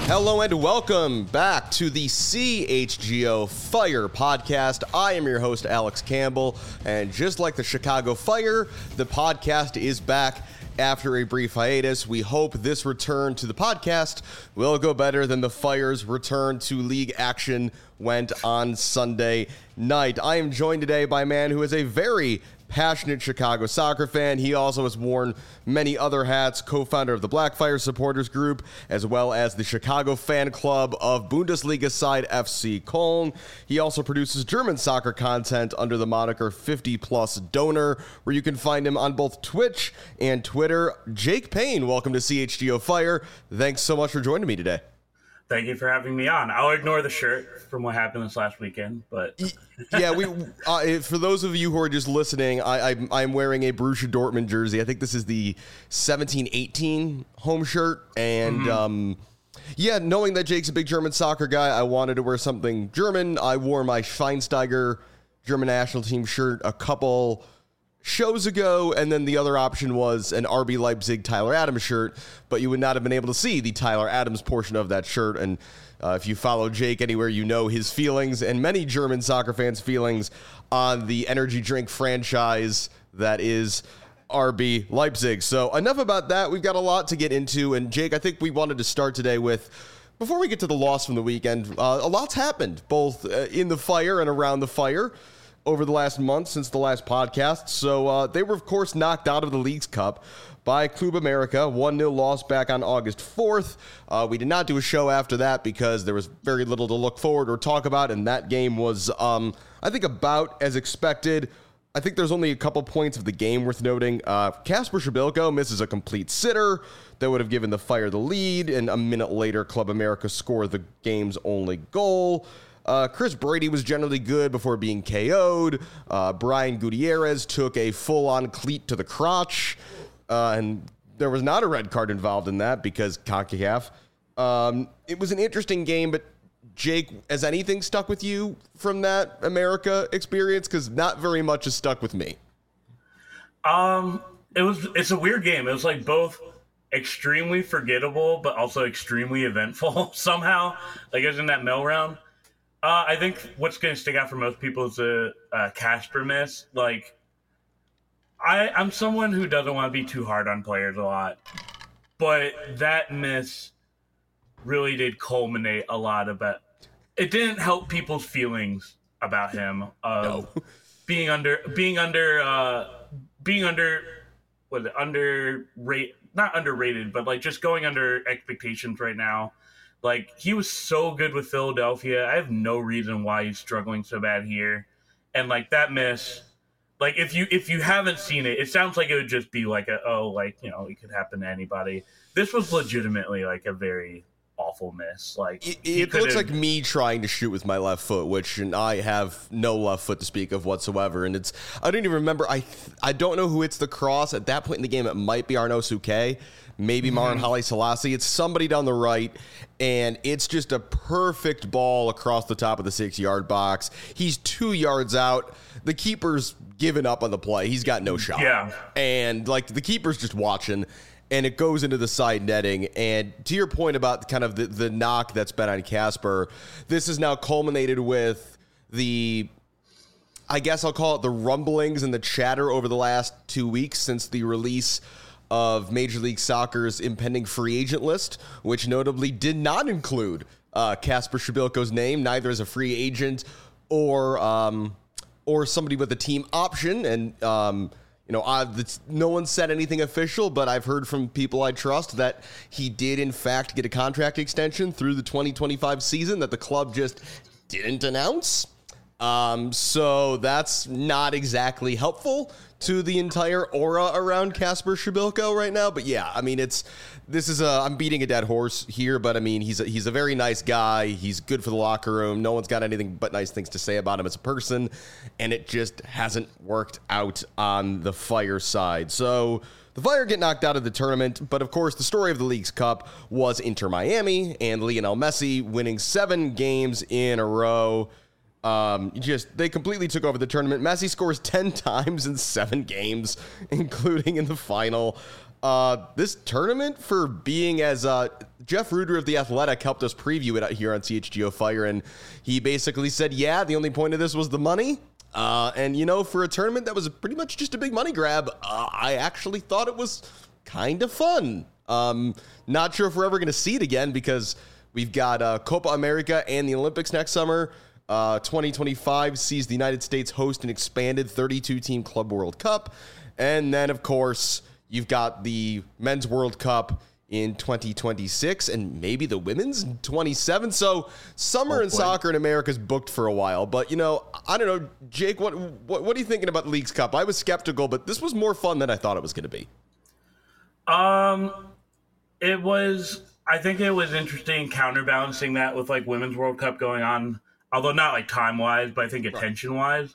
Hello and welcome back to the CHGO Fire podcast. I am your host, Alex Campbell, and just like the Chicago Fire, the podcast is back after a brief hiatus. We hope this return to the podcast will go better than the Fire's return to league action went on Sunday night. I am joined today by a man who is a very passionate Chicago soccer fan. He also has worn many other hats, co-founder of the Black Fire Supporters Group, as well as the Chicago fan club of Bundesliga side FC Köln. He also produces German soccer content under the moniker 50 Plus Donor, where you can find him on both Twitch and Twitter. Jake Payne, welcome to CHGO Fire. Thanks so much for joining me today. Thank you for having me on. I'll ignore the shirt from what happened this last weekend, but yeah, we. For those of you who are just listening, I'm wearing a Borussia Dortmund jersey. I think this is the 17-18 home shirt, and yeah, knowing that Jake's a big German soccer guy, I wanted to wear something German. I wore my Schweinsteiger German national team shirt a couple shows ago, and then the other option was an RB Leipzig Tyler Adams shirt, but you would not have been able to see the Tyler Adams portion of that shirt. And if you follow Jake anywhere, you know his feelings and many German soccer fans' feelings on the energy drink franchise that is RB Leipzig. So enough about that. We've got a lot to get into, and Jake, I think we wanted to start today with, before we get to the loss from the weekend, a lot's happened both in the Fire and around the Fire over the last month since the last podcast. So they were, of course, knocked out of the Leagues Cup by Club America, 1-0 loss back on August 4th. We did not do a show after that because there was very little to look forward or talk about, and that game was, I think, about as expected. I think there's only a couple points of the game worth noting. Kasper Schmeichel misses a complete sitter that would have given the Fire the lead, and a minute later, Club America scored the game's only goal. Chris Brady was generally good before being KO'd. Brian Gutierrez took a full-on cleat to the crotch, and there was not a red card involved in that because CONCACAF. It was an interesting game, but Jake, has anything stuck with you from that America experience? Because not very much has stuck with me. It's a weird game. It was like both extremely forgettable, but also extremely eventful somehow. Like it was in that middle round. I think what's going to stick out for most people is the Kasper miss. Like, I'm someone who doesn't want to be too hard on players a lot, but that miss really did culminate a lot about. It didn't help people's feelings about him being not underrated, but like just going under expectations right now. Like, he was so good with Philadelphia. I have no reason why he's struggling so bad here. And, like, that miss, like, if you haven't seen it, it sounds like it would just be like it could happen to anybody. This was legitimately, like, a very awful miss. Like, it looks like me trying to shoot with my left foot, which I have no left foot to speak of whatsoever. And I don't even remember. I don't know who hits the cross. At that point in the game, it might be Arnaud Souquet. Maybe Maran Haile Selassie. It's somebody down the right, and it's just a perfect ball across the top of the 6-yard box. He's 2 yards out. The keeper's given up on the play. He's got no shot. Yeah. And, like, the keeper's just watching, and it goes into the side netting. And to your point about kind of the knock that's been on Kasper, this is now culminated with I guess I'll call it the rumblings and the chatter over the last 2 weeks since the release of Major League Soccer's impending free agent list, which notably did not include Kasper Schmeichel's name, neither as a free agent or somebody with a team option. And no one said anything official, but I've heard from people I trust that he did in fact get a contract extension through the 2025 season that the club just didn't announce. So that's not exactly helpful to the entire aura around Kasper Schmeichel right now. But yeah, I mean, I'm beating a dead horse here, but I mean, he's a very nice guy. He's good for the locker room. No one's got anything but nice things to say about him as a person, and it just hasn't worked out on the Fire side. So the Fire get knocked out of the tournament, but of course the story of the Leagues Cup was Inter Miami and Lionel Messi winning 7 games in a row. They completely took over the tournament. Messi scores 10 times in 7 games, including in the final. This tournament, for being as Jeff Ruder of The Athletic helped us preview it out here on CHGO Fire, and he basically said, yeah, the only point of this was the money. And, for a tournament that was pretty much just a big money grab, I actually thought it was kind of fun. Not sure if we're ever going to see it again because we've got Copa America and the Olympics next summer. 2025 sees the United States host an expanded 32-team Club World Cup. And then, of course, you've got the Men's World Cup in 2026 and maybe the Women's in 27. So summer in soccer in America is booked for a while. But, I don't know, Jake, what are you thinking about the Leagues Cup? I was skeptical, but this was more fun than I thought it was going to be. I think it was interesting counterbalancing that with like Women's World Cup going on, although not like time wise, but I think attention wise.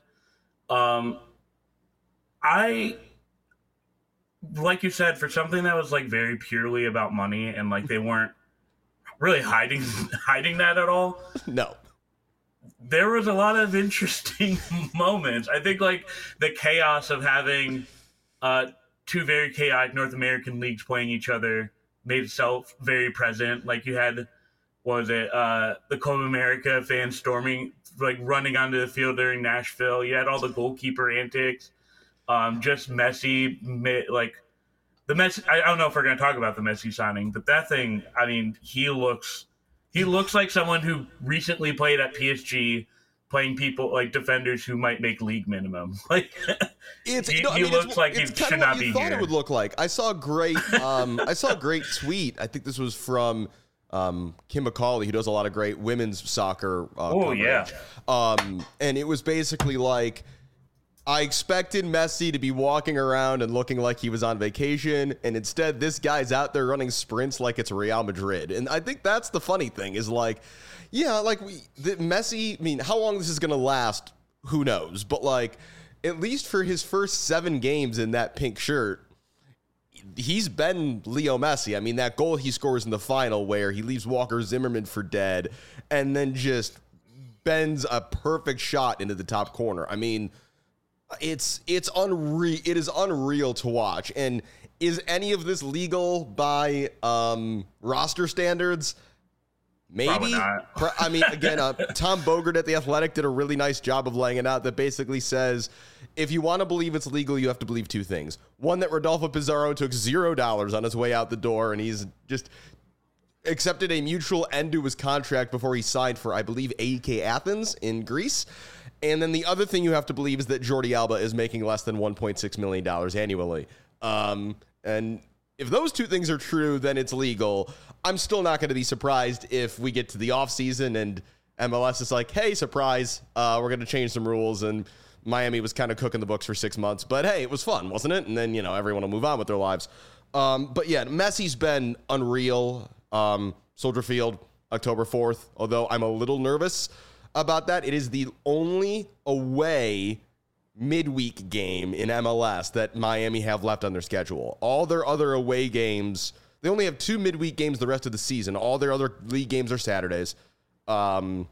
Like you said, for something that was like very purely about money and like they weren't really hiding that at all. No. There was a lot of interesting moments. I think like the chaos of having two very chaotic North American leagues playing each other made itself very present. Like you had, the Copa America fans storming, like running onto the field during Nashville. You had all the goalkeeper antics. Just Messi, like the Messi. I don't know if we're going to talk about the Messi signing, but that thing. I mean, he looks like someone who recently played at PSG, playing people like defenders who might make league minimum. Like he looks like he should not be here. Thought it would look like. I saw a great tweet. I think this was from Kim McCauley, who does a lot of great women's soccer. And it was basically like, I expected Messi to be walking around and looking like he was on vacation, and instead this guy's out there running sprints like it's Real Madrid. And I think that's the funny thing is like, Messi, I mean, how long this is going to last, who knows? But like, at least for his first 7 games in that pink shirt, he's been Leo Messi. I mean, that goal he scores in the final where he leaves Walker Zimmerman for dead and then just bends a perfect shot into the top corner. I mean, it's unreal. It is unreal to watch. And is any of this legal by roster standards? Maybe. I mean, again, Tom Bogert at The Athletic did a really nice job of laying it out that basically says, if you want to believe it's legal, you have to believe 2 things. One, that Rodolfo Pizarro took $0 on his way out the door, and he's just accepted a mutual end to his contract before he signed for, I believe, AEK Athens in Greece. And then the other thing you have to believe is that Jordi Alba is making less than $1.6 million annually. And if those 2 things are true, then it's legal. I'm still not going to be surprised if we get to the offseason and MLS is like, hey, surprise, we're going to change some rules. And Miami was kind of cooking the books for 6 months. But, hey, it was fun, wasn't it? And then, everyone will move on with their lives. But, yeah, Messi's been unreal. Soldier Field, October 4th, although I'm a little nervous about that. It is the only away midweek game in MLS that Miami have left on their schedule. All their other away games, they only have 2 midweek games the rest of the season. All their other league games are Saturdays. And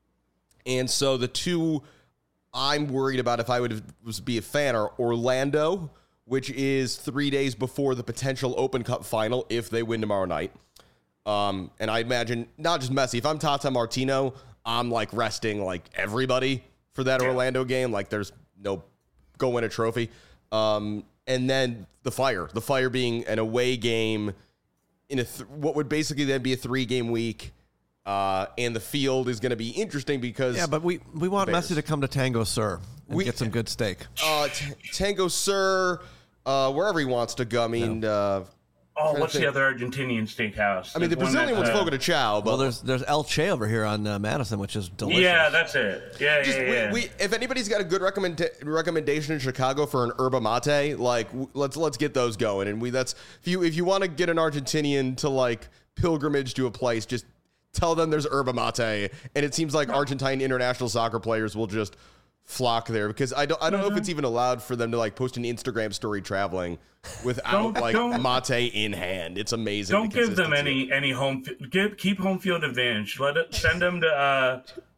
so the 2 I'm worried about if I would be a fan are Orlando, which is 3 days before the potential Open Cup final if they win tomorrow night. And I imagine not just Messi. If I'm Tata Martino, I'm like resting like everybody for that Orlando game. Like there's no go win a trophy. And then the Fire being an away game in what would basically then be a 3-game week. And the field is going to be interesting because but we want Messi to come to Tango Sur and get some good steak. Tango Sur, wherever he wants to go. I mean, what's the other Argentinian steakhouse? I mean, the Brazilian one's Fogo de Chao. But there's El Che over here on Madison, which is delicious. Yeah, that's it. Yeah. If anybody's got a good recommendation in Chicago for an yerba mate, like let's get those going. And if you want to get an Argentinian to like pilgrimage to a place, just tell them there's yerba mate. And it seems like Argentine international soccer players will just flock there because I don't know if it's even allowed for them to like post an Instagram story traveling without mate in hand. It's amazing. Don't give them any home. Keep home field advantage. Send them to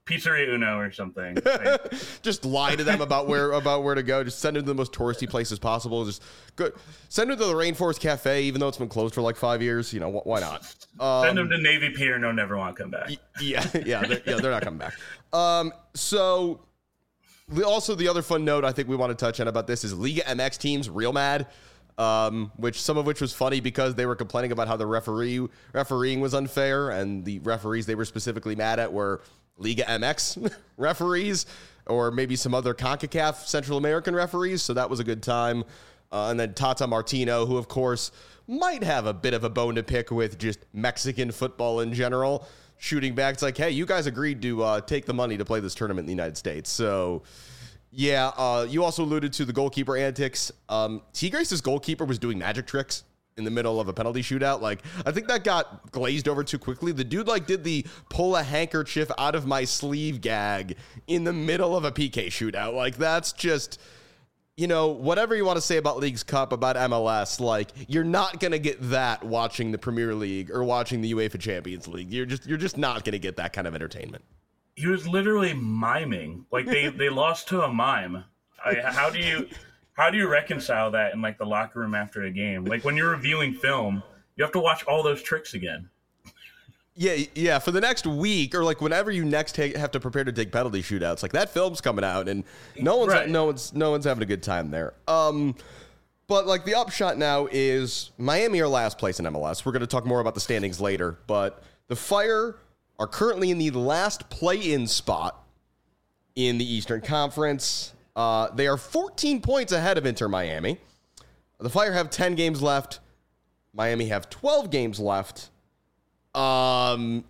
Pizzeria Uno or something. Just lie to them about where to go. Just send them to the most touristy places possible. Just go, send them to the Rainforest Cafe, even though it's been closed for like 5 years. You know, why not? Send them to Navy Pier. No, never want to come back. They're not coming back. So also the other fun note I think we want to touch on about this is Liga MX teams real mad. Which some of which was funny because they were complaining about how the refereeing was unfair, and the referees they were specifically mad at were Liga MX referees or maybe some other CONCACAF Central American referees. So that was a good time. And then Tata Martino, who of course might have a bit of a bone to pick with just Mexican football in general, shooting back. It's like, hey, you guys agreed to take the money to play this tournament in the United States. So yeah, you also alluded to the goalkeeper antics. Tigres' goalkeeper was doing magic tricks in the middle of a penalty shootout. Like, I think that got glazed over too quickly. The dude, like, did the pull a handkerchief out of my sleeve gag in the middle of a PK shootout. Like, that's just, you know, whatever you want to say about Leagues Cup, about MLS, like, you're not going to get that watching the Premier League or watching the UEFA Champions League. You're just not going to get that kind of entertainment. He was literally miming. Like they lost to a mime. How do you reconcile that in like the locker room after a game? Like when you're reviewing film, you have to watch all those tricks again. Yeah. For the next week or like whenever you next have to prepare to take penalty shootouts, like that film's coming out and no one's having a good time there. But like the upshot now is Miami are last place in MLS. We're going to talk more about the standings later, but the Fire are currently in the last play-in spot in the Eastern Conference. They are 14 points ahead of Inter Miami. The Fire have 10 games left. Miami have 12 games left. Miami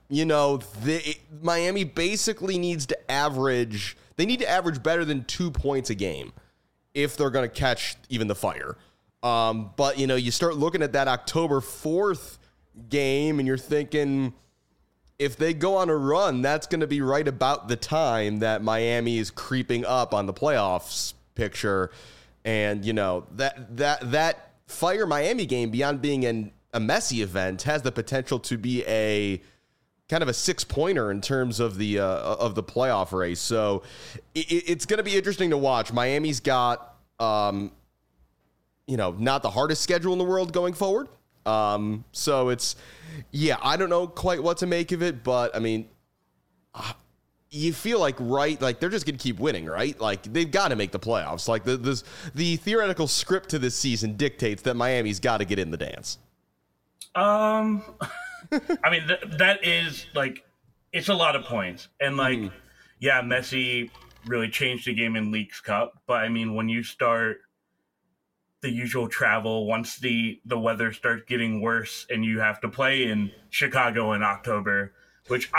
basically needs to average better than 2 points a game if they're going to catch even the Fire. But, you start looking at that October 4th game and you're thinking, if they go on a run, that's going to be right about the time that Miami is creeping up on the playoffs picture. And, that Fire Miami game, beyond being a messy event, has the potential to be a kind of a 6-pointer in terms of the playoff race. So it's going to be interesting to watch. Miami's got, not the hardest schedule in the world going forward. So it's, I don't know quite what to make of it, but I mean, you feel like, right, like they're just going to keep winning, right? Like they've got to make the playoffs. Like the theoretical script to this season dictates that Miami's got to get in the dance. I mean, that is like, it's a lot of points and like, Messi really changed the game in Leagues Cup. But I mean, when you start the usual travel, once the weather starts getting worse and you have to play in Chicago in October, which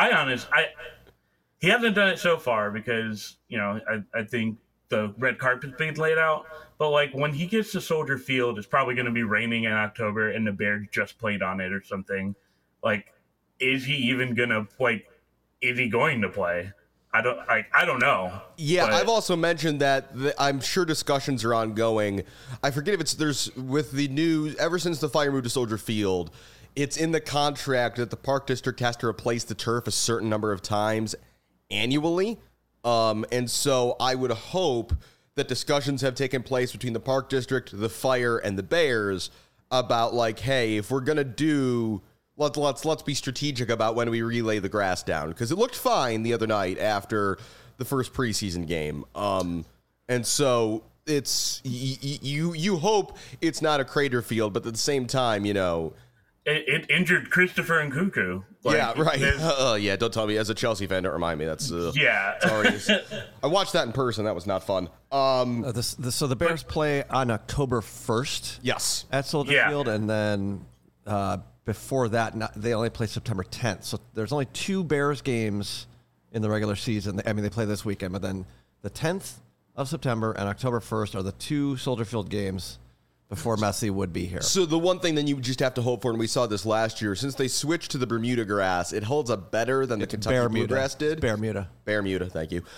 he hasn't done it so far because, I think the red carpet's being laid out. But like when he gets to Soldier Field, it's probably going to be raining in October and the Bears just played on it or something. Like, is he even going to is he going to play? I don't know. Yeah, but I've also mentioned that I'm sure discussions are ongoing. I forget if there's with the news, ever since the Fire moved to Soldier Field, it's in the contract that the Park District has to replace the turf a certain number of times annually. And so I would hope that discussions have taken place between the Park District, the Fire, and the Bears about like, hey, if we're going to do... Let's be strategic about when we relay the grass down, because it looked fine the other night after the first preseason game. And so it's you hope it's not a crater field, but at the same time, it injured Christopher Nkunku. Yeah, right. Don't tell me. As a Chelsea fan, don't remind me. That's sorry. I watched that in person. That was not fun. So the Bears play on October 1st. Yes, at Soldier Field, and then. Before that, they only play September 10th. So there's only 2 Bears games in the regular season. I mean, they play this weekend, but then the 10th of September and October 1st are the 2 Soldier Field games before Messi would be here. So the one thing that you just have to hope for, and we saw this last year, since they switched to the Bermuda grass, it holds up better than the Kentucky Bluegrass did. Bermuda, thank you.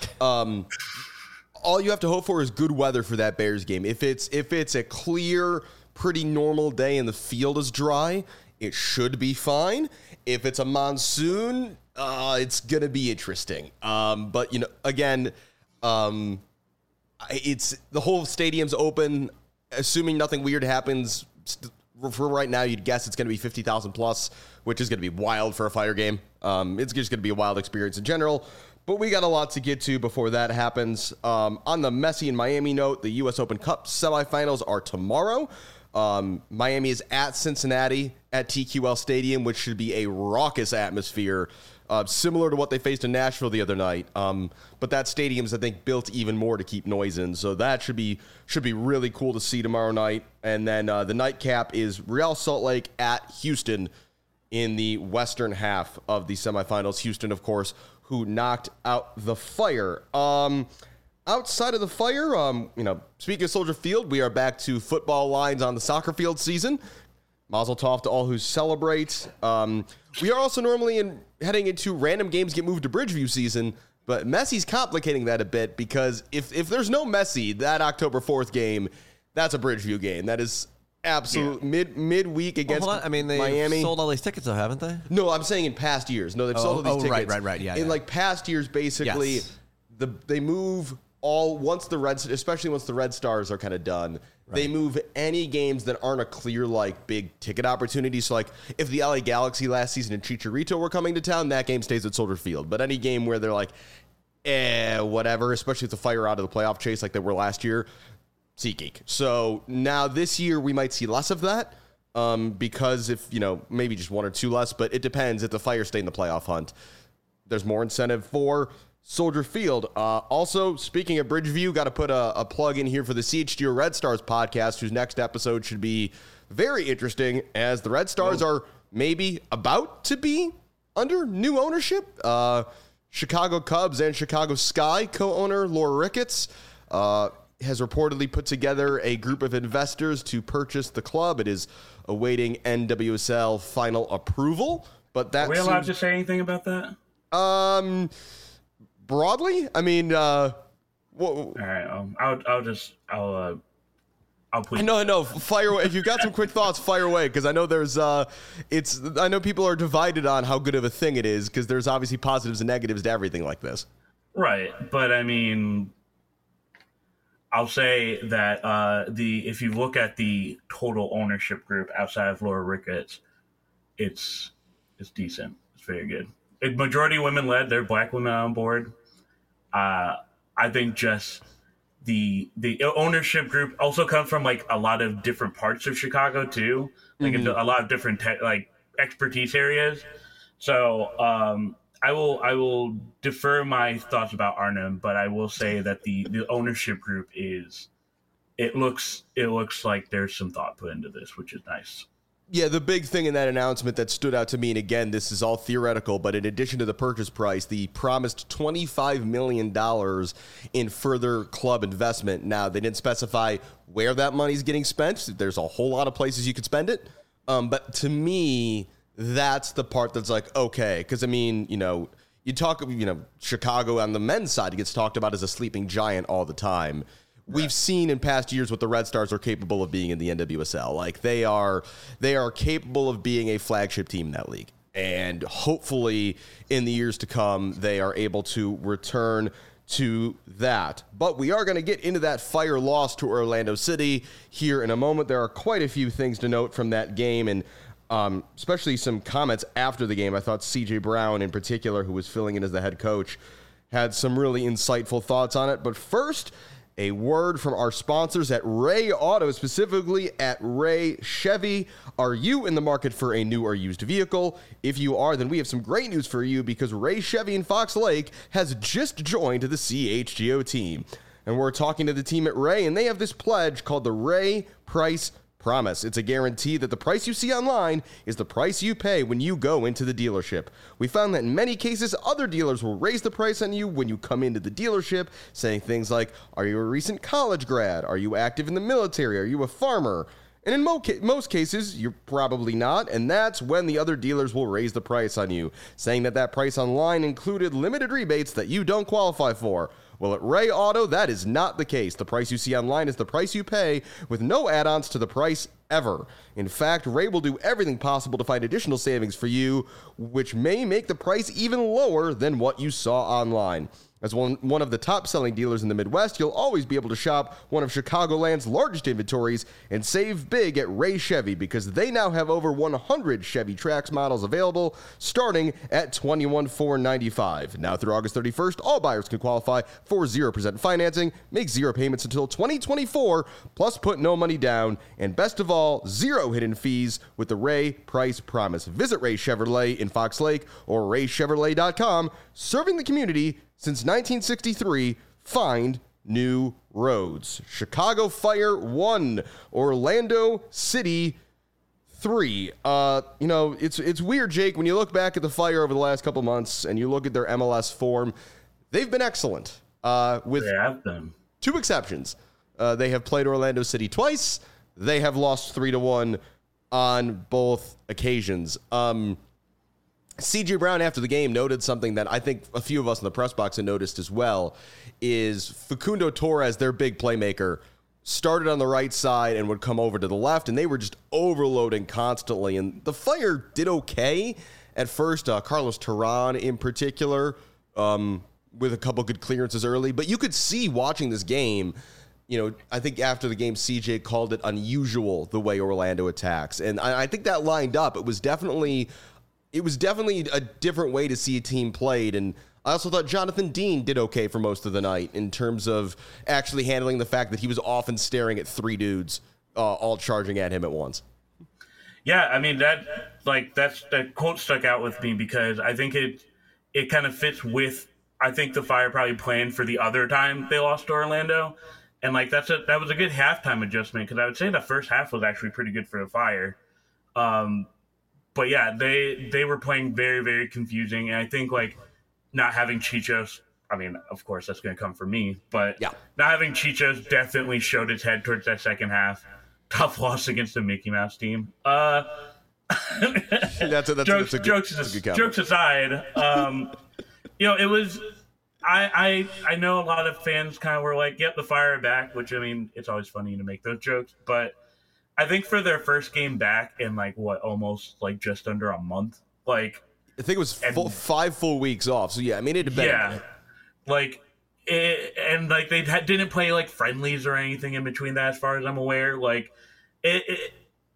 All you have to hope for is good weather for that Bears game. If it's a clear, pretty normal day and the field is dry, it should be fine. If it's a monsoon, It's gonna be interesting. But again, it's the whole stadium's open. Assuming nothing weird happens, for right now, you'd guess it's gonna be 50,000 plus, which is gonna be wild for a Fire game. It's just gonna be a wild experience in general. But we got a lot to get to before that happens. On the Messi and Miami note, the U.S. Open Cup semifinals are tomorrow. Miami is at Cincinnati at TQL Stadium, which should be a raucous atmosphere, similar to what they faced in Nashville the other night. But that stadium's, I think, built even more to keep noise in. So that should be really cool to see tomorrow night. And then the nightcap is Real Salt Lake at Houston in the western half of the semifinals. Houston, of course, who knocked out the Fire. Outside of the Fire, speaking of Soldier Field, we are back to football lines on the soccer field season. Mazel tov to all who celebrate. We are also normally heading into random games get moved to Bridgeview season, but Messi's complicating that a bit because if there's no Messi, that October 4th game, that's a Bridgeview game. That is absolute midweek against Miami. They've sold all these tickets, though, haven't they? No, I'm saying in past years. No, they've sold all these tickets. Right. Yeah. In like past years, basically, they move especially once the Red Stars are kind of done. Right. They move any games that aren't a clear big ticket opportunity. So if the LA Galaxy last season and Chicharito were coming to town, that game stays at Soldier Field. But any game where they're whatever, especially with the Fire out of the playoff chase like they were last year, SeatGeek. So now this year we might see less of that because if, maybe just one or two less, but it depends. If the Fire stay in the playoff hunt, there's more incentive for Soldier Field. Also, speaking of Bridgeview, got to put a plug in here for the CHGO Red Stars podcast, whose next episode should be very interesting as the Red Stars are maybe about to be under new ownership. Chicago Cubs and Chicago Sky co-owner Laura Ricketts has reportedly put together a group of investors to purchase the club. It is awaiting NWSL final approval. But that are we allowed to say anything about that? Broadly, I mean, all right. I'll put. No, fire away. If you've got some quick thoughts, fire away. Because I know I know people are divided on how good of a thing it is. Because there's obviously positives and negatives to everything like this. Right, but I mean, I'll say that if you look at the total ownership group outside of Laura Ricketts, it's decent. It's very good. Majority women led. They're Black women on board. I think just the ownership group also comes from a lot of different parts of Chicago too, a lot of different expertise areas. So I will defer my thoughts about Arnhem, but I will say that the ownership group it looks like there's some thought put into this, which is nice. Yeah, the big thing in that announcement that stood out to me, and again, this is all theoretical, but in addition to the purchase price, the promised $25 million in further club investment. Now, they didn't specify where that money's getting spent. There's a whole lot of places you could spend it. But to me, that's the part that's okay. Because, I mean, you talk, Chicago on the men's side, it gets talked about as a sleeping giant all the time. We've seen in past years what the Red Stars are capable of being in the NWSL. They are capable of being a flagship team in that league. And hopefully in the years to come, they are able to return to that. But we are going to get into that Fire loss to Orlando City here in a moment. There are quite a few things to note from that game, and especially some comments after the game. I thought C.J. Brown in particular, who was filling in as the head coach, had some really insightful thoughts on it. But first, a word from our sponsors at Ray Auto, specifically at Ray Chevy. Are you in the market for a new or used vehicle? If you are, then we have some great news for you because Ray Chevy in Fox Lake has just joined the CHGO team. And we're talking to the team at Ray, and they have this pledge called the Ray Price Promise. It's a guarantee that the price you see online is the price you pay when you go into the dealership. We found that in many cases, other dealers will raise the price on you when you come into the dealership, saying things like, are you a recent college grad? Are you active in the military? Are you a farmer? And in most cases, you're probably not, and that's when the other dealers will raise the price on you, saying that price online included limited rebates that you don't qualify for. Well, at Ray Auto, that is not the case. The price you see online is the price you pay with no add-ons to the price ever. In fact, Ray will do everything possible to find additional savings for you, which may make the price even lower than what you saw online. As one of the top-selling dealers in the Midwest, you'll always be able to shop one of Chicagoland's largest inventories and save big at Ray Chevy, because they now have over 100 Chevy Trax models available, starting at $21,495. Now through August 31st, all buyers can qualify for 0% financing, make 0 payments until 2024, plus put no money down, and best of all, 0 hidden fees with the Ray Price Promise. Visit Ray Chevrolet in Fox Lake or raychevrolet.com, serving the community since 1963. Find new roads. Chicago Fire 1, Orlando City 3. It's weird, Jake, when you look back at the Fire over the last couple months and you look at their MLS form, they've been excellent. With they have been. 2 exceptions. They have played Orlando City twice. They have lost 3-1 on both occasions. CJ Brown, after the game, noted something that I think a few of us in the press box had noticed as well, is Facundo Torres, their big playmaker, started on the right side and would come over to the left, and they were just overloading constantly. And the Fire did okay at first. Carlos Terran in particular, with a couple good clearances early. But you could see watching this game, I think after the game, CJ called it unusual the way Orlando attacks. And I think that lined up. It was definitely a different way to see a team played. And I also thought Jonathan Dean did okay for most of the night in terms of actually handling the fact that he was often staring at 3 dudes all charging at him at once. Yeah, I mean, that quote stuck out with me because I think it kind of fits with, I think the Fire probably planned for the other time they lost to Orlando. And that was a good halftime adjustment, because I would say the first half was actually pretty good for the Fire. But yeah, they were playing very, very confusing. And I think not having Chichos, I mean, of course that's going to come from me, but yeah, not having Chichos definitely showed its head towards that second half. Tough loss against the Mickey Mouse team. Jokes aside, it was, I know a lot of fans kind of were like, yep, the Fire are back, which, I mean, it's always funny to make those jokes, but I think for their first game back in almost just under a month, I think it was 5 full weeks off. So yeah, I mean, it had been. Yeah, they didn't play friendlies or anything in between that, as far as I'm aware. It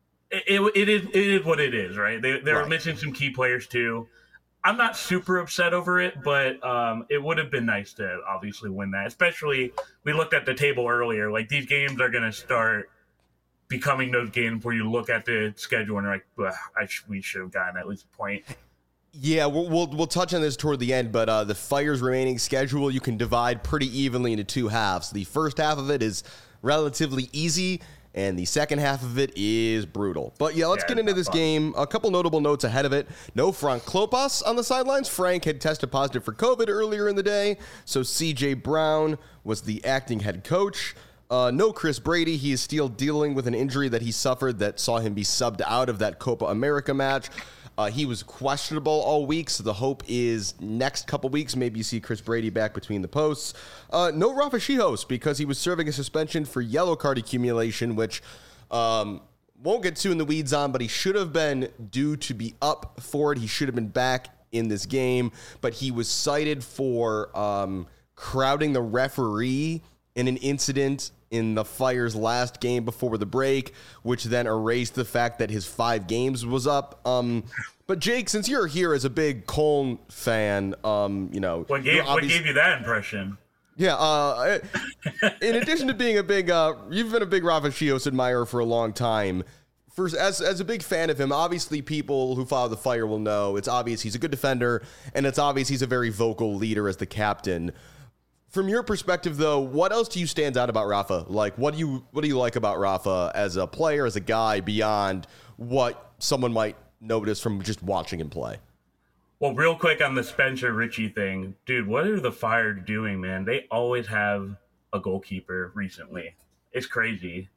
is what it is, right? They were missing some key players too. I'm not super upset over it, but it would have been nice to obviously win that. Especially, we looked at the table earlier. These games are going to start becoming those games where you look at the schedule and you're like, we should have gotten at least a point. Yeah, we'll touch on this toward the end, but the Fire's remaining schedule you can divide pretty evenly into 2 halves. The first half of it is relatively easy, and the second half of it is brutal. But yeah, let's get into this game. A couple notable notes ahead of it. No Frank Klopas on the sidelines. Frank had tested positive for COVID earlier in the day, so CJ Brown was the acting head coach. No Chris Brady. He is still dealing with an injury that he suffered that saw him be subbed out of that Copa America match. He was questionable all week, so the hope is next couple weeks, maybe you see Chris Brady back between the posts. No Rafa Chihos, because he was serving a suspension for yellow card accumulation, which won't get too in the weeds on, but he should have been due to be up for it. He should have been back in this game, but he was cited for crowding the referee in an incident in the Fire's last game before the break, which then erased the fact that his 5 games was up. But Jake, since you're here as a big Cologne fan, what gave you that impression? Yeah, in addition to being you've been a big Rafa Chihos admirer for a long time. As a big fan of him, obviously people who follow the Fire will know it's obvious he's a good defender, and it's obvious he's a very vocal leader as the captain. From your perspective, though, what else to you stands out about Rafa? What do you like about Rafa as a player, as a guy, beyond what someone might notice from just watching him play? Well, real quick on the Spencer Richie thing, dude, what are the Fire doing, man? They always have a goalkeeper recently. It's crazy.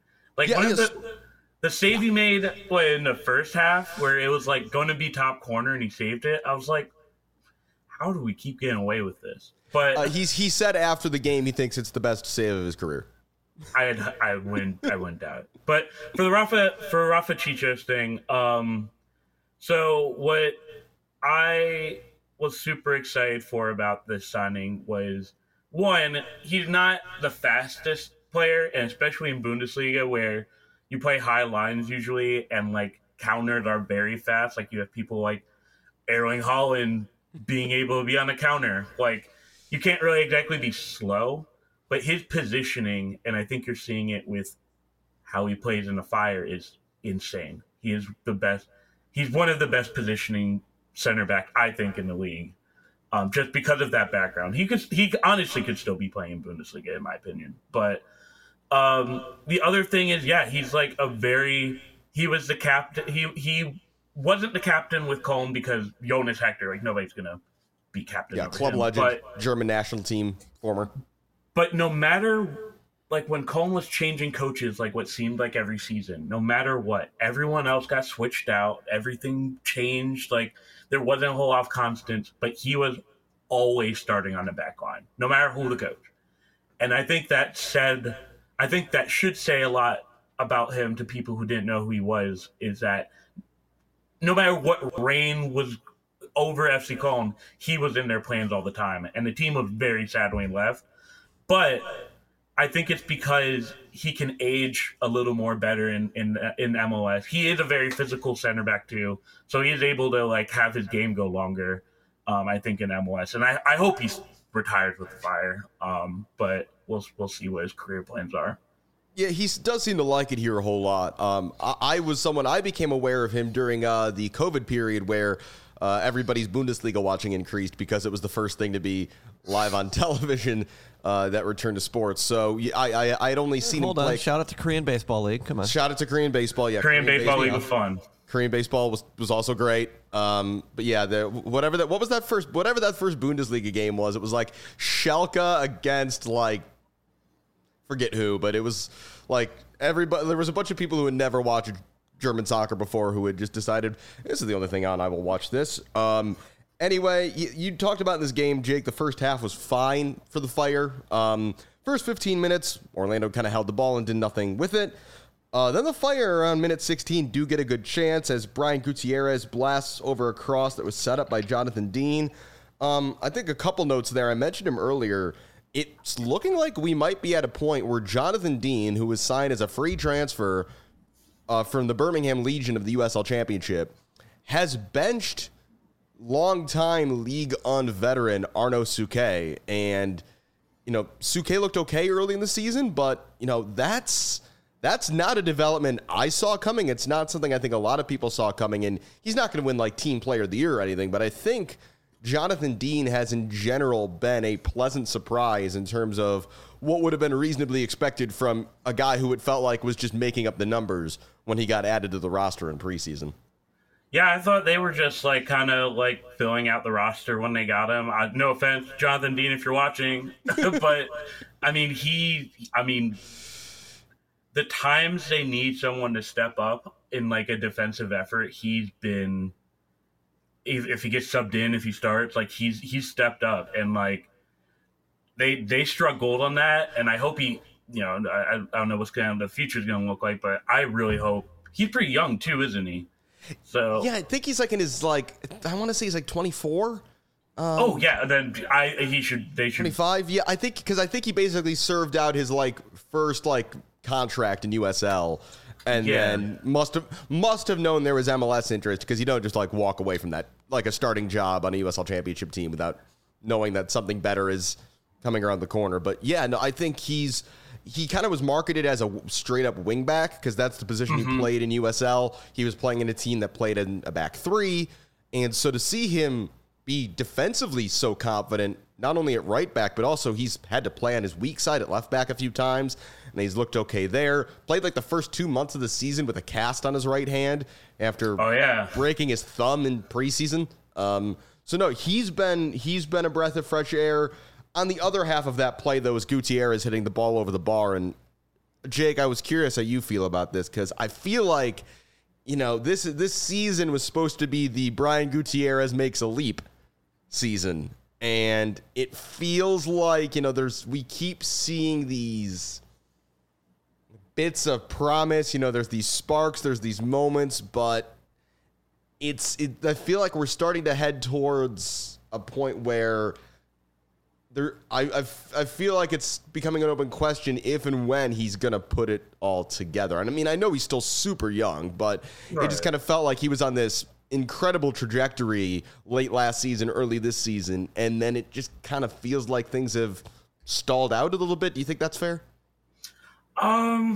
The save he made in the first half, where it was going to be top corner and he saved it, I was like, how do we keep getting away with this? But he said after the game he thinks it's the best save of his career. I wouldn't doubt it. But for the Rafa Chichos thing, so what I was super excited for about this signing was, one, he's not the fastest player, and especially in Bundesliga where you play high lines usually, and like counters are very fast. Like you have people like Erling Haaland being able to be on a counter. Like you can't really exactly be slow, but his positioning, and I think you're seeing it with how he plays in the Fire, is insane. He is the best. He's one of the best positioning center back, I think, in the league. Just because of that background, he honestly could still be playing in Bundesliga, in my opinion. But the other thing is, yeah, he's like he was the captain. He wasn't the captain with Köln because Jonas Hector, like nobody's gonna be captain. Yeah, club legend, German national team former. But no matter, like when Köln was changing coaches, like what seemed like every season, no matter what, everyone else got switched out. Everything changed. Like there wasn't a whole lot of constants, but he was always starting on the back line, no matter who the coach. And I think that should say a lot about him to people who didn't know who he was, is that no matter what reign was over FC Köln, he was in their plans all the time. And the team was very sad when he left. But I think it's because he can age a little more better in MLS. He is a very physical center back too, so he is able to like have his game go longer. I think in MLS, and I hope he's retired with the Fire. But we'll see what his career plans are. Yeah, he does seem to like it here a whole lot. I became aware of him during the COVID period where everybody's Bundesliga watching increased because it was the first thing to be live on television that returned to sports. So I had only seen him play. Shout out to Korean Baseball League. Come on. Shout out to Korean Baseball. Yeah, Korean Baseball League was fun. Korean baseball was also great. But yeah, whatever that first Bundesliga game was, it was like Schalke against like forget who, but it was like everybody. There was a bunch of people who had never watched German soccer before who had just decided this is the only thing on. I will watch this. Anyway, you talked about in this game, Jake. The first half was fine for the Fire. First 15 minutes, Orlando kind of held the ball and did nothing with it. Then the Fire around minute 16 do get a good chance as Brian Gutierrez blasts over a cross that was set up by Jonathan Dean. I think a couple notes there. I mentioned him earlier. It's looking like we might be at a point where Jonathan Dean, who was signed as a free transfer from the Birmingham Legion of the USL Championship, has benched longtime League One veteran Arnaud Souquet. And, Souquet looked okay early in the season, but, that's not a development I saw coming. It's not something I think a lot of people saw coming. And he's not going to win like Team Player of the Year or anything, but I think Jonathan Dean has in general been a pleasant surprise in terms of what would have been reasonably expected from a guy who it felt like was just making up the numbers when he got added to the roster in preseason. Yeah, I thought they were just like kind of like filling out the roster when they got him. No offense, Jonathan Dean, if you're watching, but the times they need someone to step up in like a defensive effort, he's been. If he gets subbed in, if he starts, like he's stepped up, and like they struck gold on that. And I hope he, I don't know what the future's going to look like, but I really hope he's pretty young too, isn't he? So yeah, I think he's like in his I want to say he's like 24. Oh yeah, then they should 25. Yeah, I think he basically served out his first contract in USL. And then must have known there was MLS interest because you don't just walk away from that a starting job on a USL Championship team without knowing that something better is coming around the corner. But yeah, no, I think he kind of was marketed as a straight up wing back because that's the position he played in USL. He was playing in a team that played in a back three, and so to see him be defensively so confident, not only at right back, but also he's had to play on his weak side at left back a few times, and he's looked okay there. Played the first 2 months of the season with a cast on his right hand after breaking his thumb in preseason. So no, he's been a breath of fresh air. On the other half of that play, though, is Gutierrez hitting the ball over the bar. And Jake, I was curious how you feel about this because I feel like this season was supposed to be the Brian Gutierrez makes a leap season. And it feels like, we keep seeing these bits of promise. There's these sparks, there's these moments, but I feel like we're starting to head towards a point where I feel like it's becoming an open question if and when he's going to put it all together. And I mean, I know he's still super young, but It just kind of felt like he was on this incredible trajectory late last season, early this season, and then it just kind of feels like things have stalled out a little bit. Do you think that's fair? I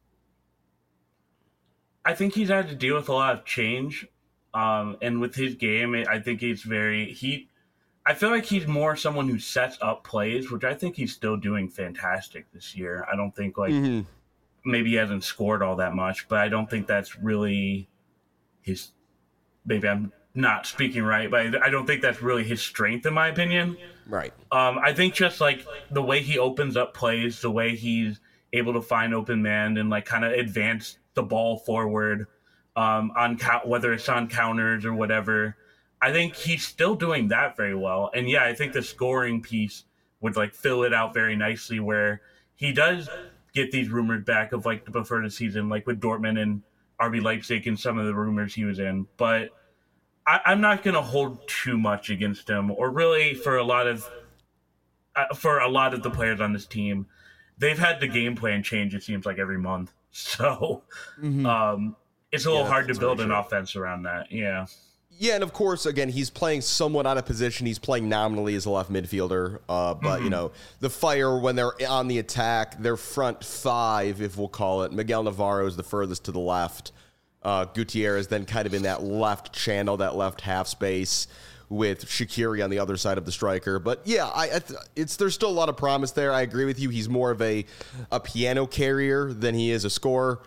think he's had to deal with a lot of change. And with his game, I think I feel like he's more someone who sets up plays, which I think he's still doing fantastic this year. I don't think maybe he hasn't scored all that much, but I don't think that's really maybe I'm not speaking right, but I don't think that's really his strength, in my opinion. Right. I think just like the way he opens up plays, the way he's able to find open man and like kind of advance the ball forward whether it's on counters or whatever. I think he's still doing that very well. And yeah, I think the scoring piece would like fill it out very nicely, where he does get these rumors back of like before the season, like with Dortmund and RB Leipzig and some of the rumors he was in. But I'm not going to hold too much against him, or really for a lot of the players on this team. They've had the game plan change, it seems like, every month. So it's a little hard to build an offense around that. Yeah. Yeah, and of course, again, he's playing somewhat out of position. He's playing nominally as a left midfielder. But, the Fire, when they're on the attack, their front five, if we'll call it, Miguel Navarro is the furthest to the left. Gutierrez then kind of in that left channel, that left half space, with Shaqiri on the other side of the striker. But yeah, there's still a lot of promise there. I agree with you. He's more of a piano carrier than he is a scorer.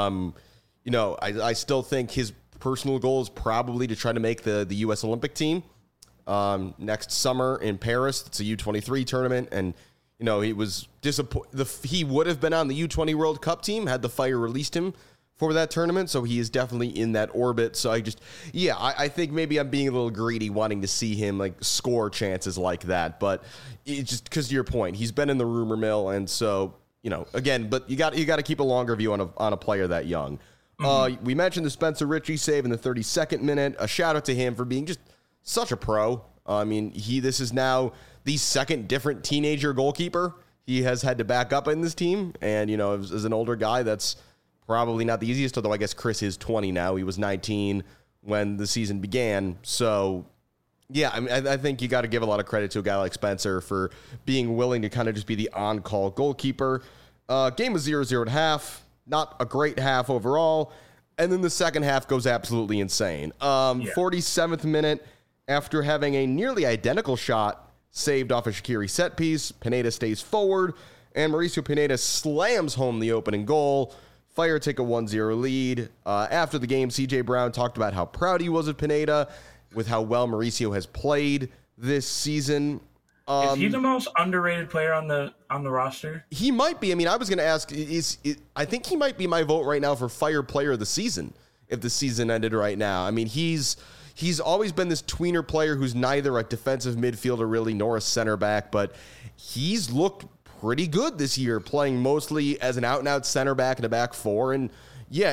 I still think his personal goal is probably to try to make the U.S. Olympic team next summer in Paris. It's a U23 tournament, and he was disappointed. He would have been on the U20 World Cup team had the Fire released him for that tournament, so he is definitely in that orbit. So I think maybe I'm being a little greedy wanting to see him like score chances like that, but it's just because to your point, he's been in the rumor mill, and so again, but you got to keep a longer view on a player that young. We mentioned the Spencer Richie save in the 32nd minute. A shout out to him for being just such a pro. I mean, this is now the second different teenager goalkeeper he has had to back up in this team, and as an older guy, that's probably not the easiest, although I guess Chris is 20 now. He was 19 when the season began. So, yeah, I mean, I think you got to give a lot of credit to a guy like Spencer for being willing to kind of just be the on-call goalkeeper. Game was 0-0 at half. Not a great half overall. And then the second half goes absolutely insane. 47th minute, after having a nearly identical shot saved off a Shaqiri set piece, Pineda stays forward, and Mauricio Pineda slams home the opening goal. Fire take a 1-0 lead. After the game, CJ Brown talked about how proud he was of Pineda with how well Mauricio has played this season. Is he the most underrated player on the roster? He might be. I mean, I was going to ask, I think he might be my vote right now for Fire Player of the Season if the season ended right now. I mean, he's always been this tweener player who's neither a defensive midfielder really nor a center back, but he's looked pretty good this year, playing mostly as an out-and-out center back in a back four. And yeah,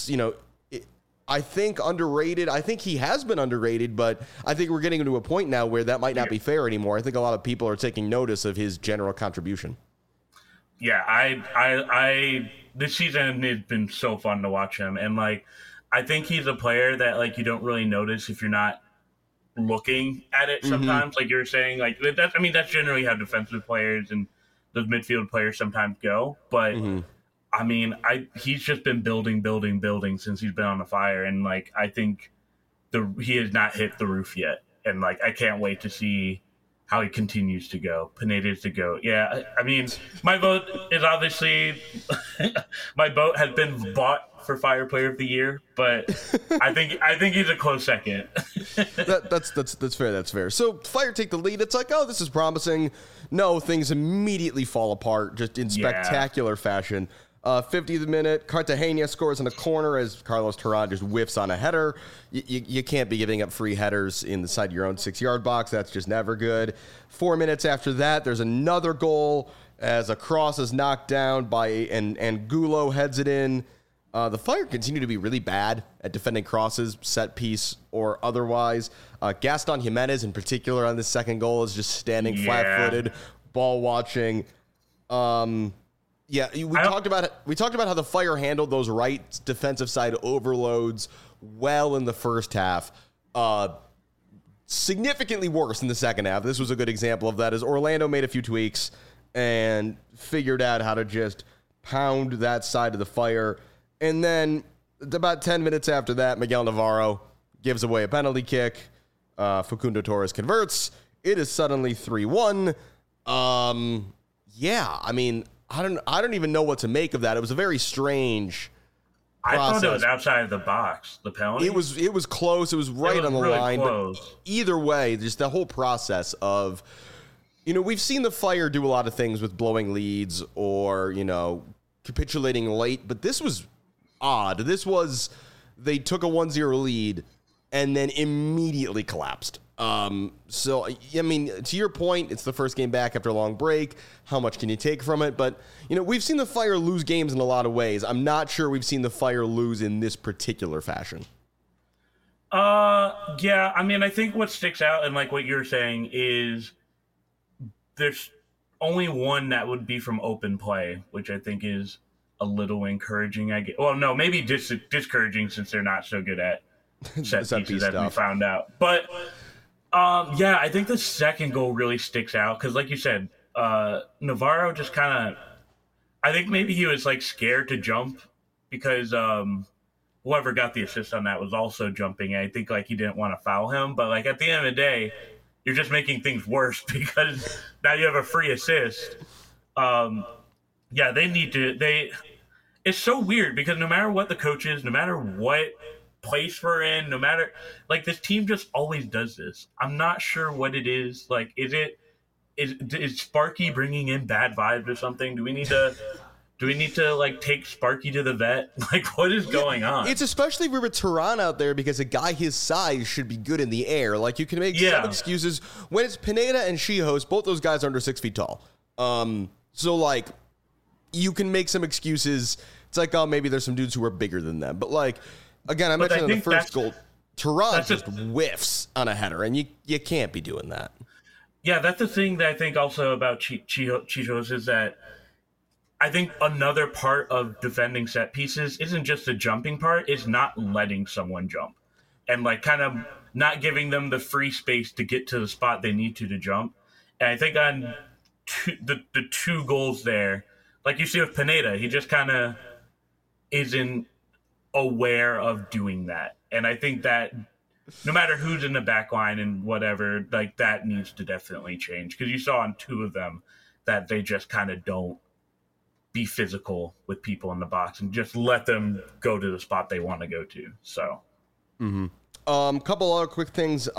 I think underrated. I think he has been underrated, but I think we're getting to a point now where that might not be fair anymore. I think a lot of people are taking notice of his general contribution. Yeah, I this season has been so fun to watch him, and like I think he's a player that like you don't really notice if you're not looking at it sometimes. Like you're saying, like that's generally how defensive players and those midfield players sometimes go, but. I mean, he's just been building since he's been on the Fire, and like I think he has not hit the roof yet, and like I can't wait to see how he continues to go. Pineda's to go. Yeah, I mean, my vote is obviously my vote has been bought for Fire Player of the Year, but I think he's a close second. That's fair. That's fair. So Fire take the lead. It's like, oh, this is promising. No, things immediately fall apart just in spectacular fashion. 50th minute, Cartagena scores in a corner as Carlos Terán just whiffs on a header. You can't be giving up free headers inside your own 6-yard box. That's just never good. 4 minutes after that, there's another goal. as a cross is knocked down by and Gulo heads it in. The Fire continue to be really bad at defending crosses, set piece, or otherwise. Gaston Jimenez, in particular, on this second goal is just standing flat-footed, ball watching. We talked about how the Fire handled those right defensive side overloads well in the first half. Significantly worse in the second half. This was a good example of that, as Orlando made a few tweaks and figured out how to just pound that side of the Fire. And then about 10 minutes after that, Miguel Navarro gives away a penalty kick. Facundo Torres converts. It is suddenly 3-1. I mean, I don't even know what to make of that. It was a very strange process. I thought it was outside of the box, the penalty. It was close. It was right on the really line. Close. But either way, just the whole process of, we've seen the Fire do a lot of things with blowing leads or, capitulating late, but this was odd. They took a 1-0 lead and then immediately collapsed. So, I mean, to your point, it's the first game back after a long break. How much can you take from it? But, we've seen the Fire lose games in a lot of ways. I'm not sure we've seen the Fire lose in this particular fashion. Yeah, I mean, I think what sticks out and like what you're saying is there's only one that would be from open play, which I think is a little encouraging. Well, no, maybe discouraging since they're not so good at set pieces as we found out. But I think the second goal really sticks out because, like you said, Navarro just kind of, I think maybe he was like scared to jump because whoever got the assist on that was also jumping. And I think like he didn't want to foul him, but like at the end of the day, you're just making things worse because now you have a free assist. They need to. It's so weird because no matter what the coach is, no matter what place we're in, no matter like this team just always does this. I'm not sure what it is. Like, is Sparky bringing in bad vibes or something? Do we need to like take Sparky to the vet? Like, what is going on? It's especially with Turan out there because a guy his size should be good in the air. Like, you can make some excuses when it's Pineda and Shihos. Both those guys are under 6 feet tall. So like, you can make some excuses. It's like, oh, maybe there's some dudes who are bigger than them. But like, again, I mentioned in the first goal, Turan just whiffs on a header, and you can't be doing that. Yeah, that's the thing that I think also about Chichos is that I think another part of defending set pieces isn't just the jumping part, it's not letting someone jump. And like kind of not giving them the free space to get to the spot they need to jump. And I think on the two goals there, like you see with Pineda, he just kind of isn't aware of doing that. And I think that no matter who's in the back line and whatever, like that needs to definitely change. Because you saw on two of them that they just kind of don't be physical with people in the box and just let them go to the spot they want to go to. So, couple other quick things.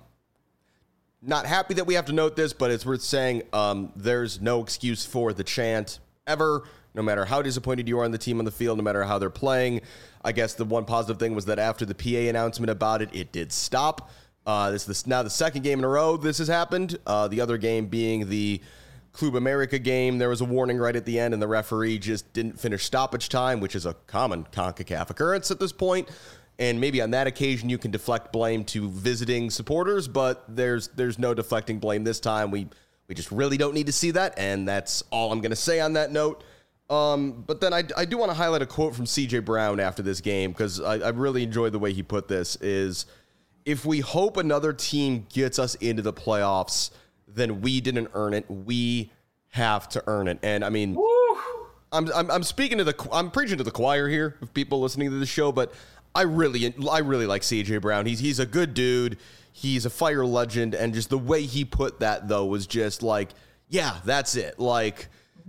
Not happy that we have to note this, but it's worth saying. There's no excuse for the chant ever, no matter how disappointed you are in the team on the field, no matter how they're playing. I guess the one positive thing was that after the PA announcement about it, it did stop. This is now the second game in a row this has happened. The other game being the Club America game. There was a warning right at the end, and the referee just didn't finish stoppage time, which is a common CONCACAF occurrence at this point. And maybe on that occasion you can deflect blame to visiting supporters, but there's no deflecting blame this time. We just really don't need to see that, and that's all I'm going to say on that note. But then I do want to highlight a quote from CJ Brown after this game, because I really enjoyed the way he put this, is if we hope another team gets us into the playoffs, then we didn't earn it. We have to earn it. And I mean, I'm preaching to the choir here of people listening to the show, but I really like CJ Brown. He's a good dude. He's a Fire legend, and just the way he put that though was just like, yeah, that's it. Like,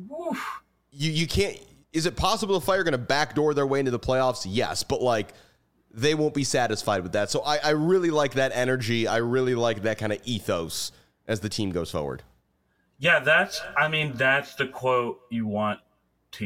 you can't. Is it possible the Fire are going to backdoor their way into the playoffs? Yes, but like, they won't be satisfied with that. So I really like that energy. I really like that kind of ethos as the team goes forward. Yeah, that's the quote you want to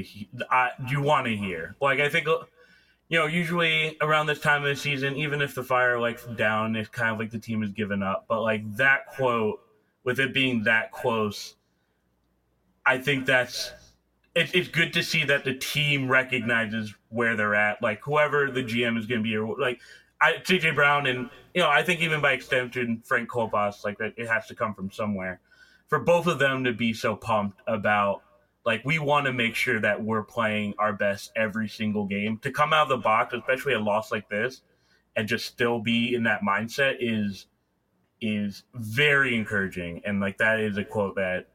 hear. Like, I think, usually around this time of the season, even if the Fire like down, it's kind of like the team has given up. But like that quote, with it being that close, I think it's good to see that the team recognizes where they're at. Like whoever the GM is going to be, or like CJ Brown, and I think even by extension Frank Kolbas, like it has to come from somewhere. For both of them to be so pumped about, like, we want to make sure that we're playing our best every single game. To come out of the box, especially a loss like this, and just still be in that mindset is very encouraging. And like that is a quote that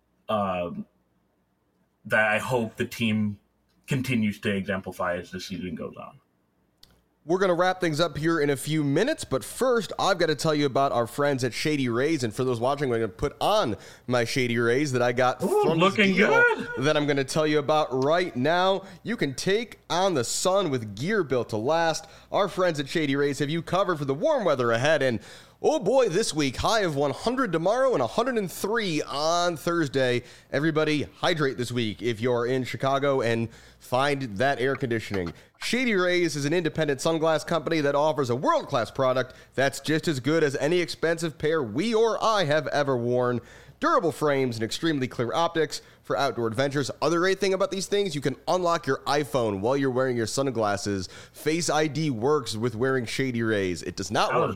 that I hope the team continues to exemplify as the season goes on. We're going to wrap things up here in a few minutes, but first, I've got to tell you about our friends at Shady Rays, and for those watching, I'm going to put on my Shady Rays that I got from looking good. That I'm going to tell you about right now. You can take on the sun with gear built to last. Our friends at Shady Rays have you covered for the warm weather ahead, and oh boy, this week, high of 100 tomorrow and 103 on Thursday. Everybody, hydrate this week if you're in Chicago and find that air conditioning. Shady Rays is an independent sunglass company that offers a world-class product that's just as good as any expensive pair we or I have ever worn. Durable frames and extremely clear optics for outdoor adventures. Other great thing about these things, you can unlock your iPhone while you're wearing your sunglasses. Face ID works with wearing Shady Rays. It does not work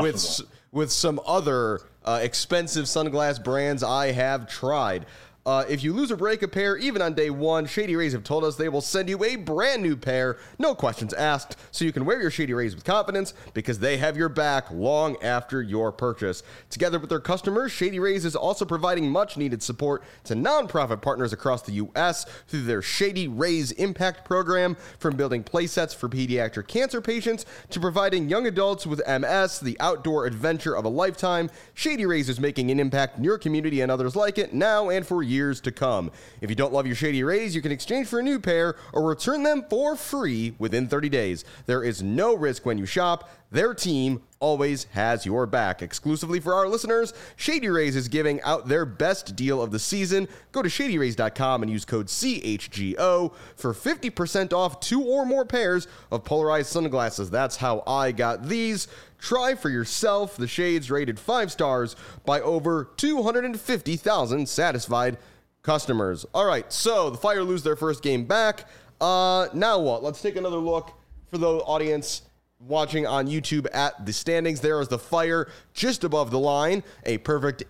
with some other expensive sunglass brands I have tried. If you lose or break a pair, even on day one, Shady Rays have told us they will send you a brand new pair, no questions asked, so you can wear your Shady Rays with confidence because they have your back long after your purchase. Together with their customers, Shady Rays is also providing much-needed support to nonprofit partners across the U.S. through their Shady Rays Impact Program, from building playsets for pediatric cancer patients to providing young adults with MS the outdoor adventure of a lifetime. Shady Rays is making an impact in your community and others like it now and for years to come. If you don't love your Shady Rays, you can exchange for a new pair or return them for free within 30 days. There is no risk when you shop. Their team always has your back. Exclusively for our listeners, Shady Rays is giving out their best deal of the season. Go to shadyrays.com and use code CHGO for 50% off 2 or more pairs of polarized sunglasses. That's how I got these. Try for yourself the shades rated 5 stars by over 250,000 satisfied customers. All right, so the Fire lose their first game back. Now what? Let's take another look for the audience watching on YouTube at the standings. There is the Fire just above the line, a perfect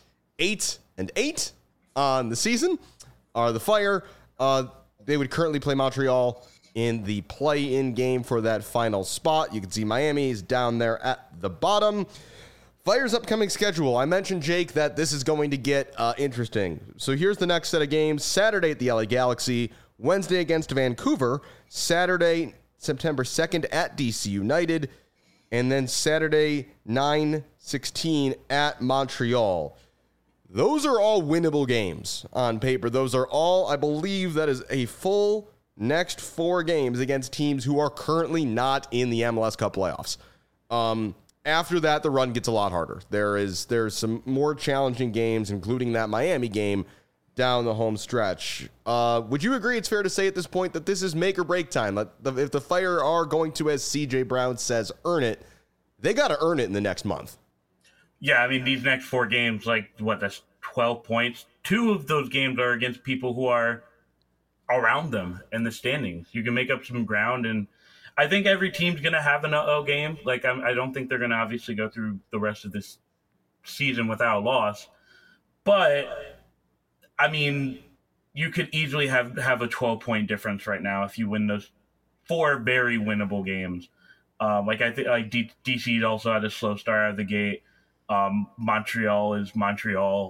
8-8-8 on the season. The Fire, they would currently play Montreal in the play-in game for that final spot. You can see Miami is down there at the bottom. Fire's upcoming schedule. I mentioned, Jake, that this is going to get interesting. So here's the next set of games. Saturday at the LA Galaxy, Wednesday against Vancouver, Saturday, September 2nd at DC United, and then Saturday, 9/16 at Montreal. Those are all winnable games on paper. Those are all, I believe, that is a full next 4 games against teams who are currently not in the MLS Cup playoffs. After that, the run gets a lot harder. There's some more challenging games, including that Miami game down the home stretch. Would you agree it's fair to say at this point that this is make or break time? If the Fire are going to, as CJ Brown says, earn it, they got to earn it in the next month. Yeah, I mean, these next 4 games, that's 12 points. 2 of those games are against people who are around them in the standings. You can make up some ground, and I think every team's going to have an uh-oh game. I don't think they're going to obviously go through the rest of this season without a loss. But, I mean, you could easily have a 12-point difference right now if you win those 4 very winnable games. I think DC also had a slow start out of the gate. Montreal is Montreal.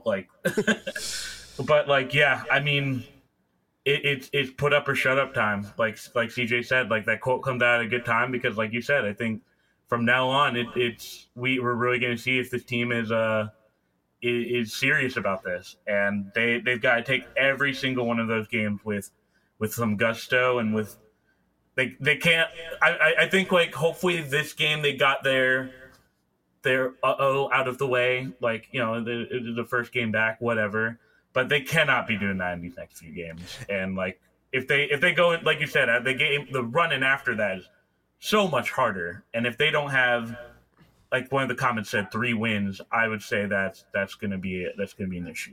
But yeah, I mean, it's put up or shut up time. Like CJ said, that quote comes out at a good time because, like you said, I think from now on we're really going to see if this team is serious about this, and they've got to take every single one of those games with some gusto and with they can't. I think hopefully this game they got their out of the way, the first game back, whatever. But they cannot be doing that in these next few games. And if they go, like you said, the run-in after that is so much harder. And if they don't have, like one of the comments said, 3 wins, I would say that's going to be an issue.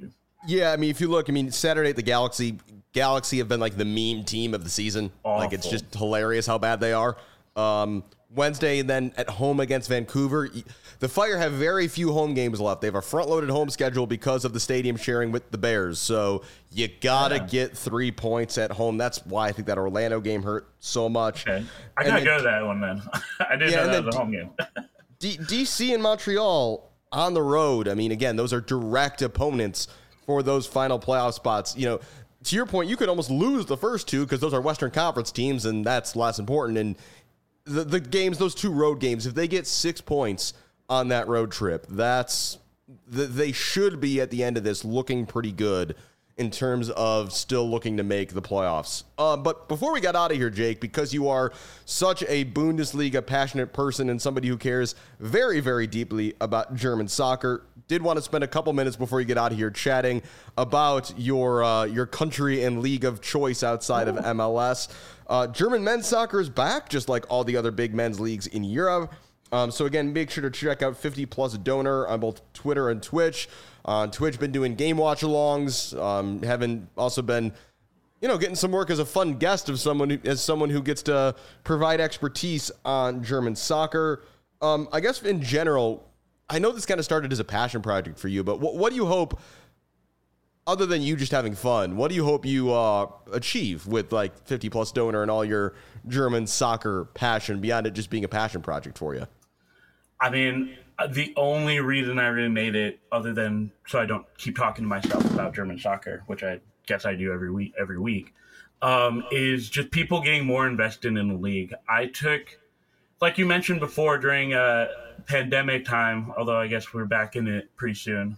Yeah, I mean, if you look, I mean, Saturday at the Galaxy have been like the meme team of the season. Awful. Like, it's just hilarious how bad they are. Wednesday, and then at home against Vancouver. The Fire have very few home games left. They have a front-loaded home schedule because of the stadium sharing with the Bears. So you gotta get 3 points at home. That's why I think that Orlando game hurt so much. Okay. I gotta go to that one then. I didn't know that was a home game. DC and Montreal on the road. I mean, again, those are direct opponents for those final playoff spots. You know, to your point, you could almost lose the first two because those are Western Conference teams, and that's less important. And the games, those two road games, if they get 6 points on that road trip, they should be at the end of this looking pretty good in terms of still looking to make the playoffs. But before we got out of here, Jake, because you are such a Bundesliga passionate person and somebody who cares very, very deeply about German soccer, did want to spend a couple minutes before you get out of here chatting about your country and league of choice outside of MLS. German men's soccer is back, just like all the other big men's leagues in Europe. So again, make sure to check out 50 Plus Donor on both Twitter and Twitch. On Twitch, been doing game watch alongs. Having also been, getting some work as a fun guest of someone who gets to provide expertise on German soccer. I guess in general, I know this kind of started as a passion project for you, but what do you hope, other than you just having fun, what do you hope you achieve with like 50 Plus Donor and all your German soccer passion beyond it just being a passion project for you? I mean, the only reason I really made it, other than so I don't keep talking to myself about German soccer, which I guess I do every week, is just people getting more invested in the league. I took, like you mentioned before, during pandemic time, although I guess we're back in it pretty soon,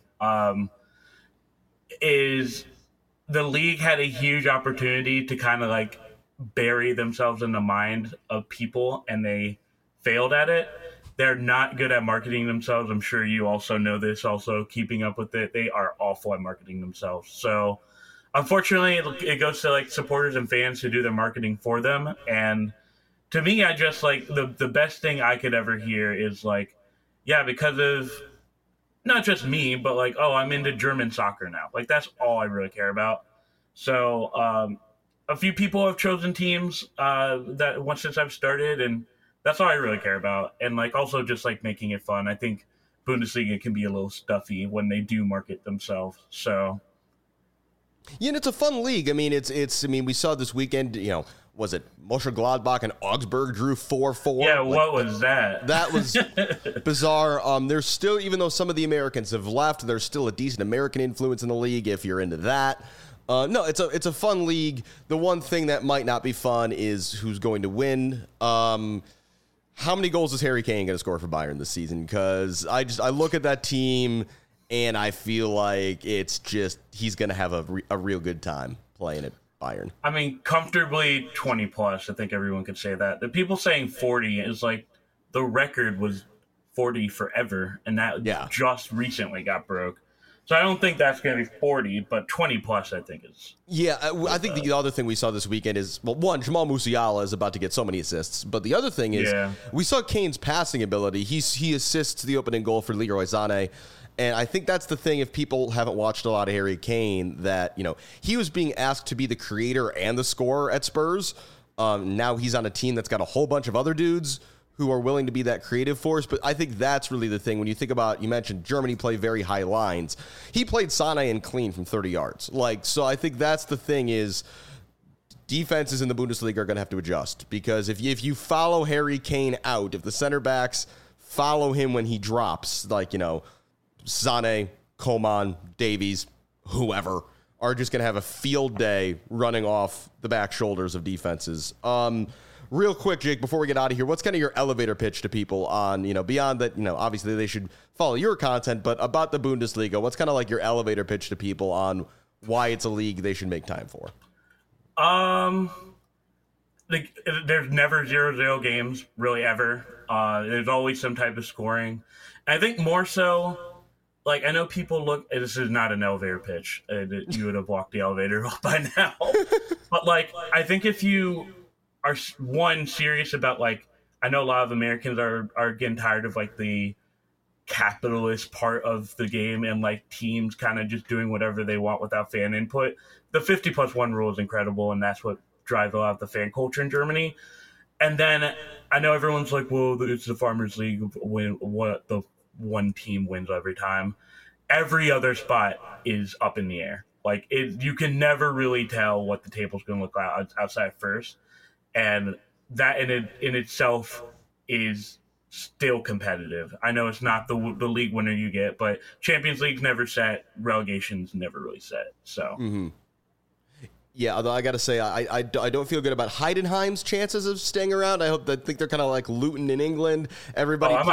is the league had a huge opportunity to kind of like bury themselves in the mind of people, and they failed at it. They're not good at marketing themselves. I'm sure you also know this, also keeping up with it. They are awful at marketing themselves. So unfortunately, it goes to like supporters and fans who do their marketing for them. And to me, I just like the best thing I could ever hear is like, yeah, because of not just me, but like, oh, I'm into German soccer now. Like, that's all I really care about. So a few people have chosen teams that once since I've started, and that's all I really care about. And like also just like making it fun. I think Bundesliga can be a little stuffy when they do market themselves. So yeah, and it's a fun league. I mean, I mean, we saw this weekend, was it Mönchengladbach and Augsburg drew 4-4? Yeah, what was that? That was bizarre. There's still, even though some of the Americans have left, there's still a decent American influence in the league if you're into that. No, it's a fun league. The one thing that might not be fun is who's going to win. How many goals is Harry Kane going to score for Bayern this season? Because I look at that team and I feel like it's just he's going to have a real good time playing at Bayern. I mean, comfortably 20 plus. I think everyone could say that. The people saying 40 is like the record was 40 forever, and that just recently got broke. So I don't think that's going to be 40, but 20 plus I think is. Yeah, I think the other thing we saw this weekend is, well, one, Jamal Musiala is about to get so many assists, but the other thing is we saw Kane's passing ability. He assists the opening goal for Leroy Sané, and I think that's the thing if people haven't watched a lot of Harry Kane, that, he was being asked to be the creator and the scorer at Spurs. Now he's on a team that's got a whole bunch of other dudes who are willing to be that creative force. But I think that's really the thing. When you think about, you mentioned Germany play very high lines. He played Sané and clean from 30 yards. So I think that's the thing is defenses in the Bundesliga are going to have to adjust. Because if you follow Harry Kane out, if the center backs follow him when he drops, like, Sané, Coman, Davies, whoever, are just going to have a field day running off the back shoulders of defenses. Real quick, Jake, before we get out of here, what's kind of your elevator pitch to people on, beyond that, obviously they should follow your content, but about the Bundesliga, what's kind of like your elevator pitch to people on why it's a league they should make time for? There's never 0-0 games, really, ever. There's always some type of scoring. I think more so, like, I know people look, this is not an elevator pitch. You would have walked the elevator by now. But, like, I think if you are serious about, like, I know a lot of Americans are getting tired of like the capitalist part of the game and like teams kind of just doing whatever they want without fan input. The 50+1 rule is incredible, and that's what drives a lot of the fan culture in Germany. And then I know everyone's like, well, it's the Farmers League, what the one team wins every time. Every other spot is up in the air. Like, you can never really tell what the table's going to look like outside first. And that in itself is still competitive. I know it's not the league winner you get, but Champions League's never set, relegation's never really set. So, Yeah, although I got to say, I don't feel good about Heidenheim's chances of staying around. I think they're kind of like Luton in England. Everybody, I'm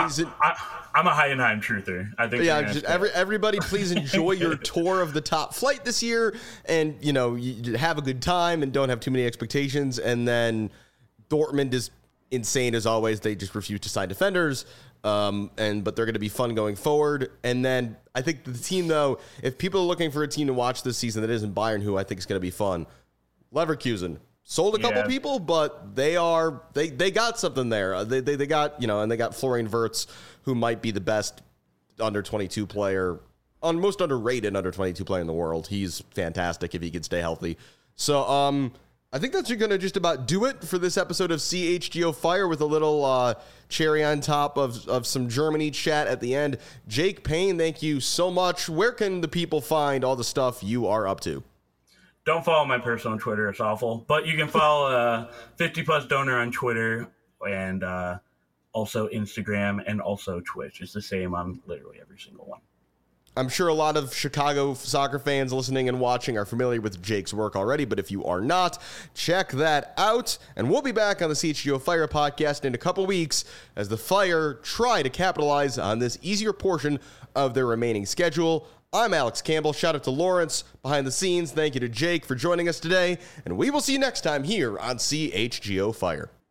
a Heidenheim truther. I think. Yeah, everybody, please enjoy your tour of the top flight this year, and you have a good time and don't have too many expectations. And then Dortmund is insane as always. They just refuse to sign defenders, but they're going to be fun going forward. And then I think the team, though, if people are looking for a team to watch this season that isn't Bayern, who I think is going to be fun, Leverkusen sold a couple people, but they got something there. They got and they got Florian Wirtz, who might be the best under 22 player, most underrated under 22 player in the world. He's fantastic if he can stay healthy. So I think that's going to just about do it for this episode of CHGO Fire, with a little cherry on top of some Germany chat at the end. Jake Payne, thank you so much. Where can the people find all the stuff you are up to? Don't follow my personal Twitter. It's awful. But you can follow 50+ Donor on Twitter and also Instagram and also Twitch. It's the same on literally every single one. I'm sure a lot of Chicago soccer fans listening and watching are familiar with Jake's work already, but if you are not, check that out. And we'll be back on the CHGO Fire podcast in a couple weeks as the Fire try to capitalize on this easier portion of their remaining schedule. I'm Alex Campbell. Shout out to Lawrence behind the scenes. Thank you to Jake for joining us today, and we will see you next time here on CHGO Fire.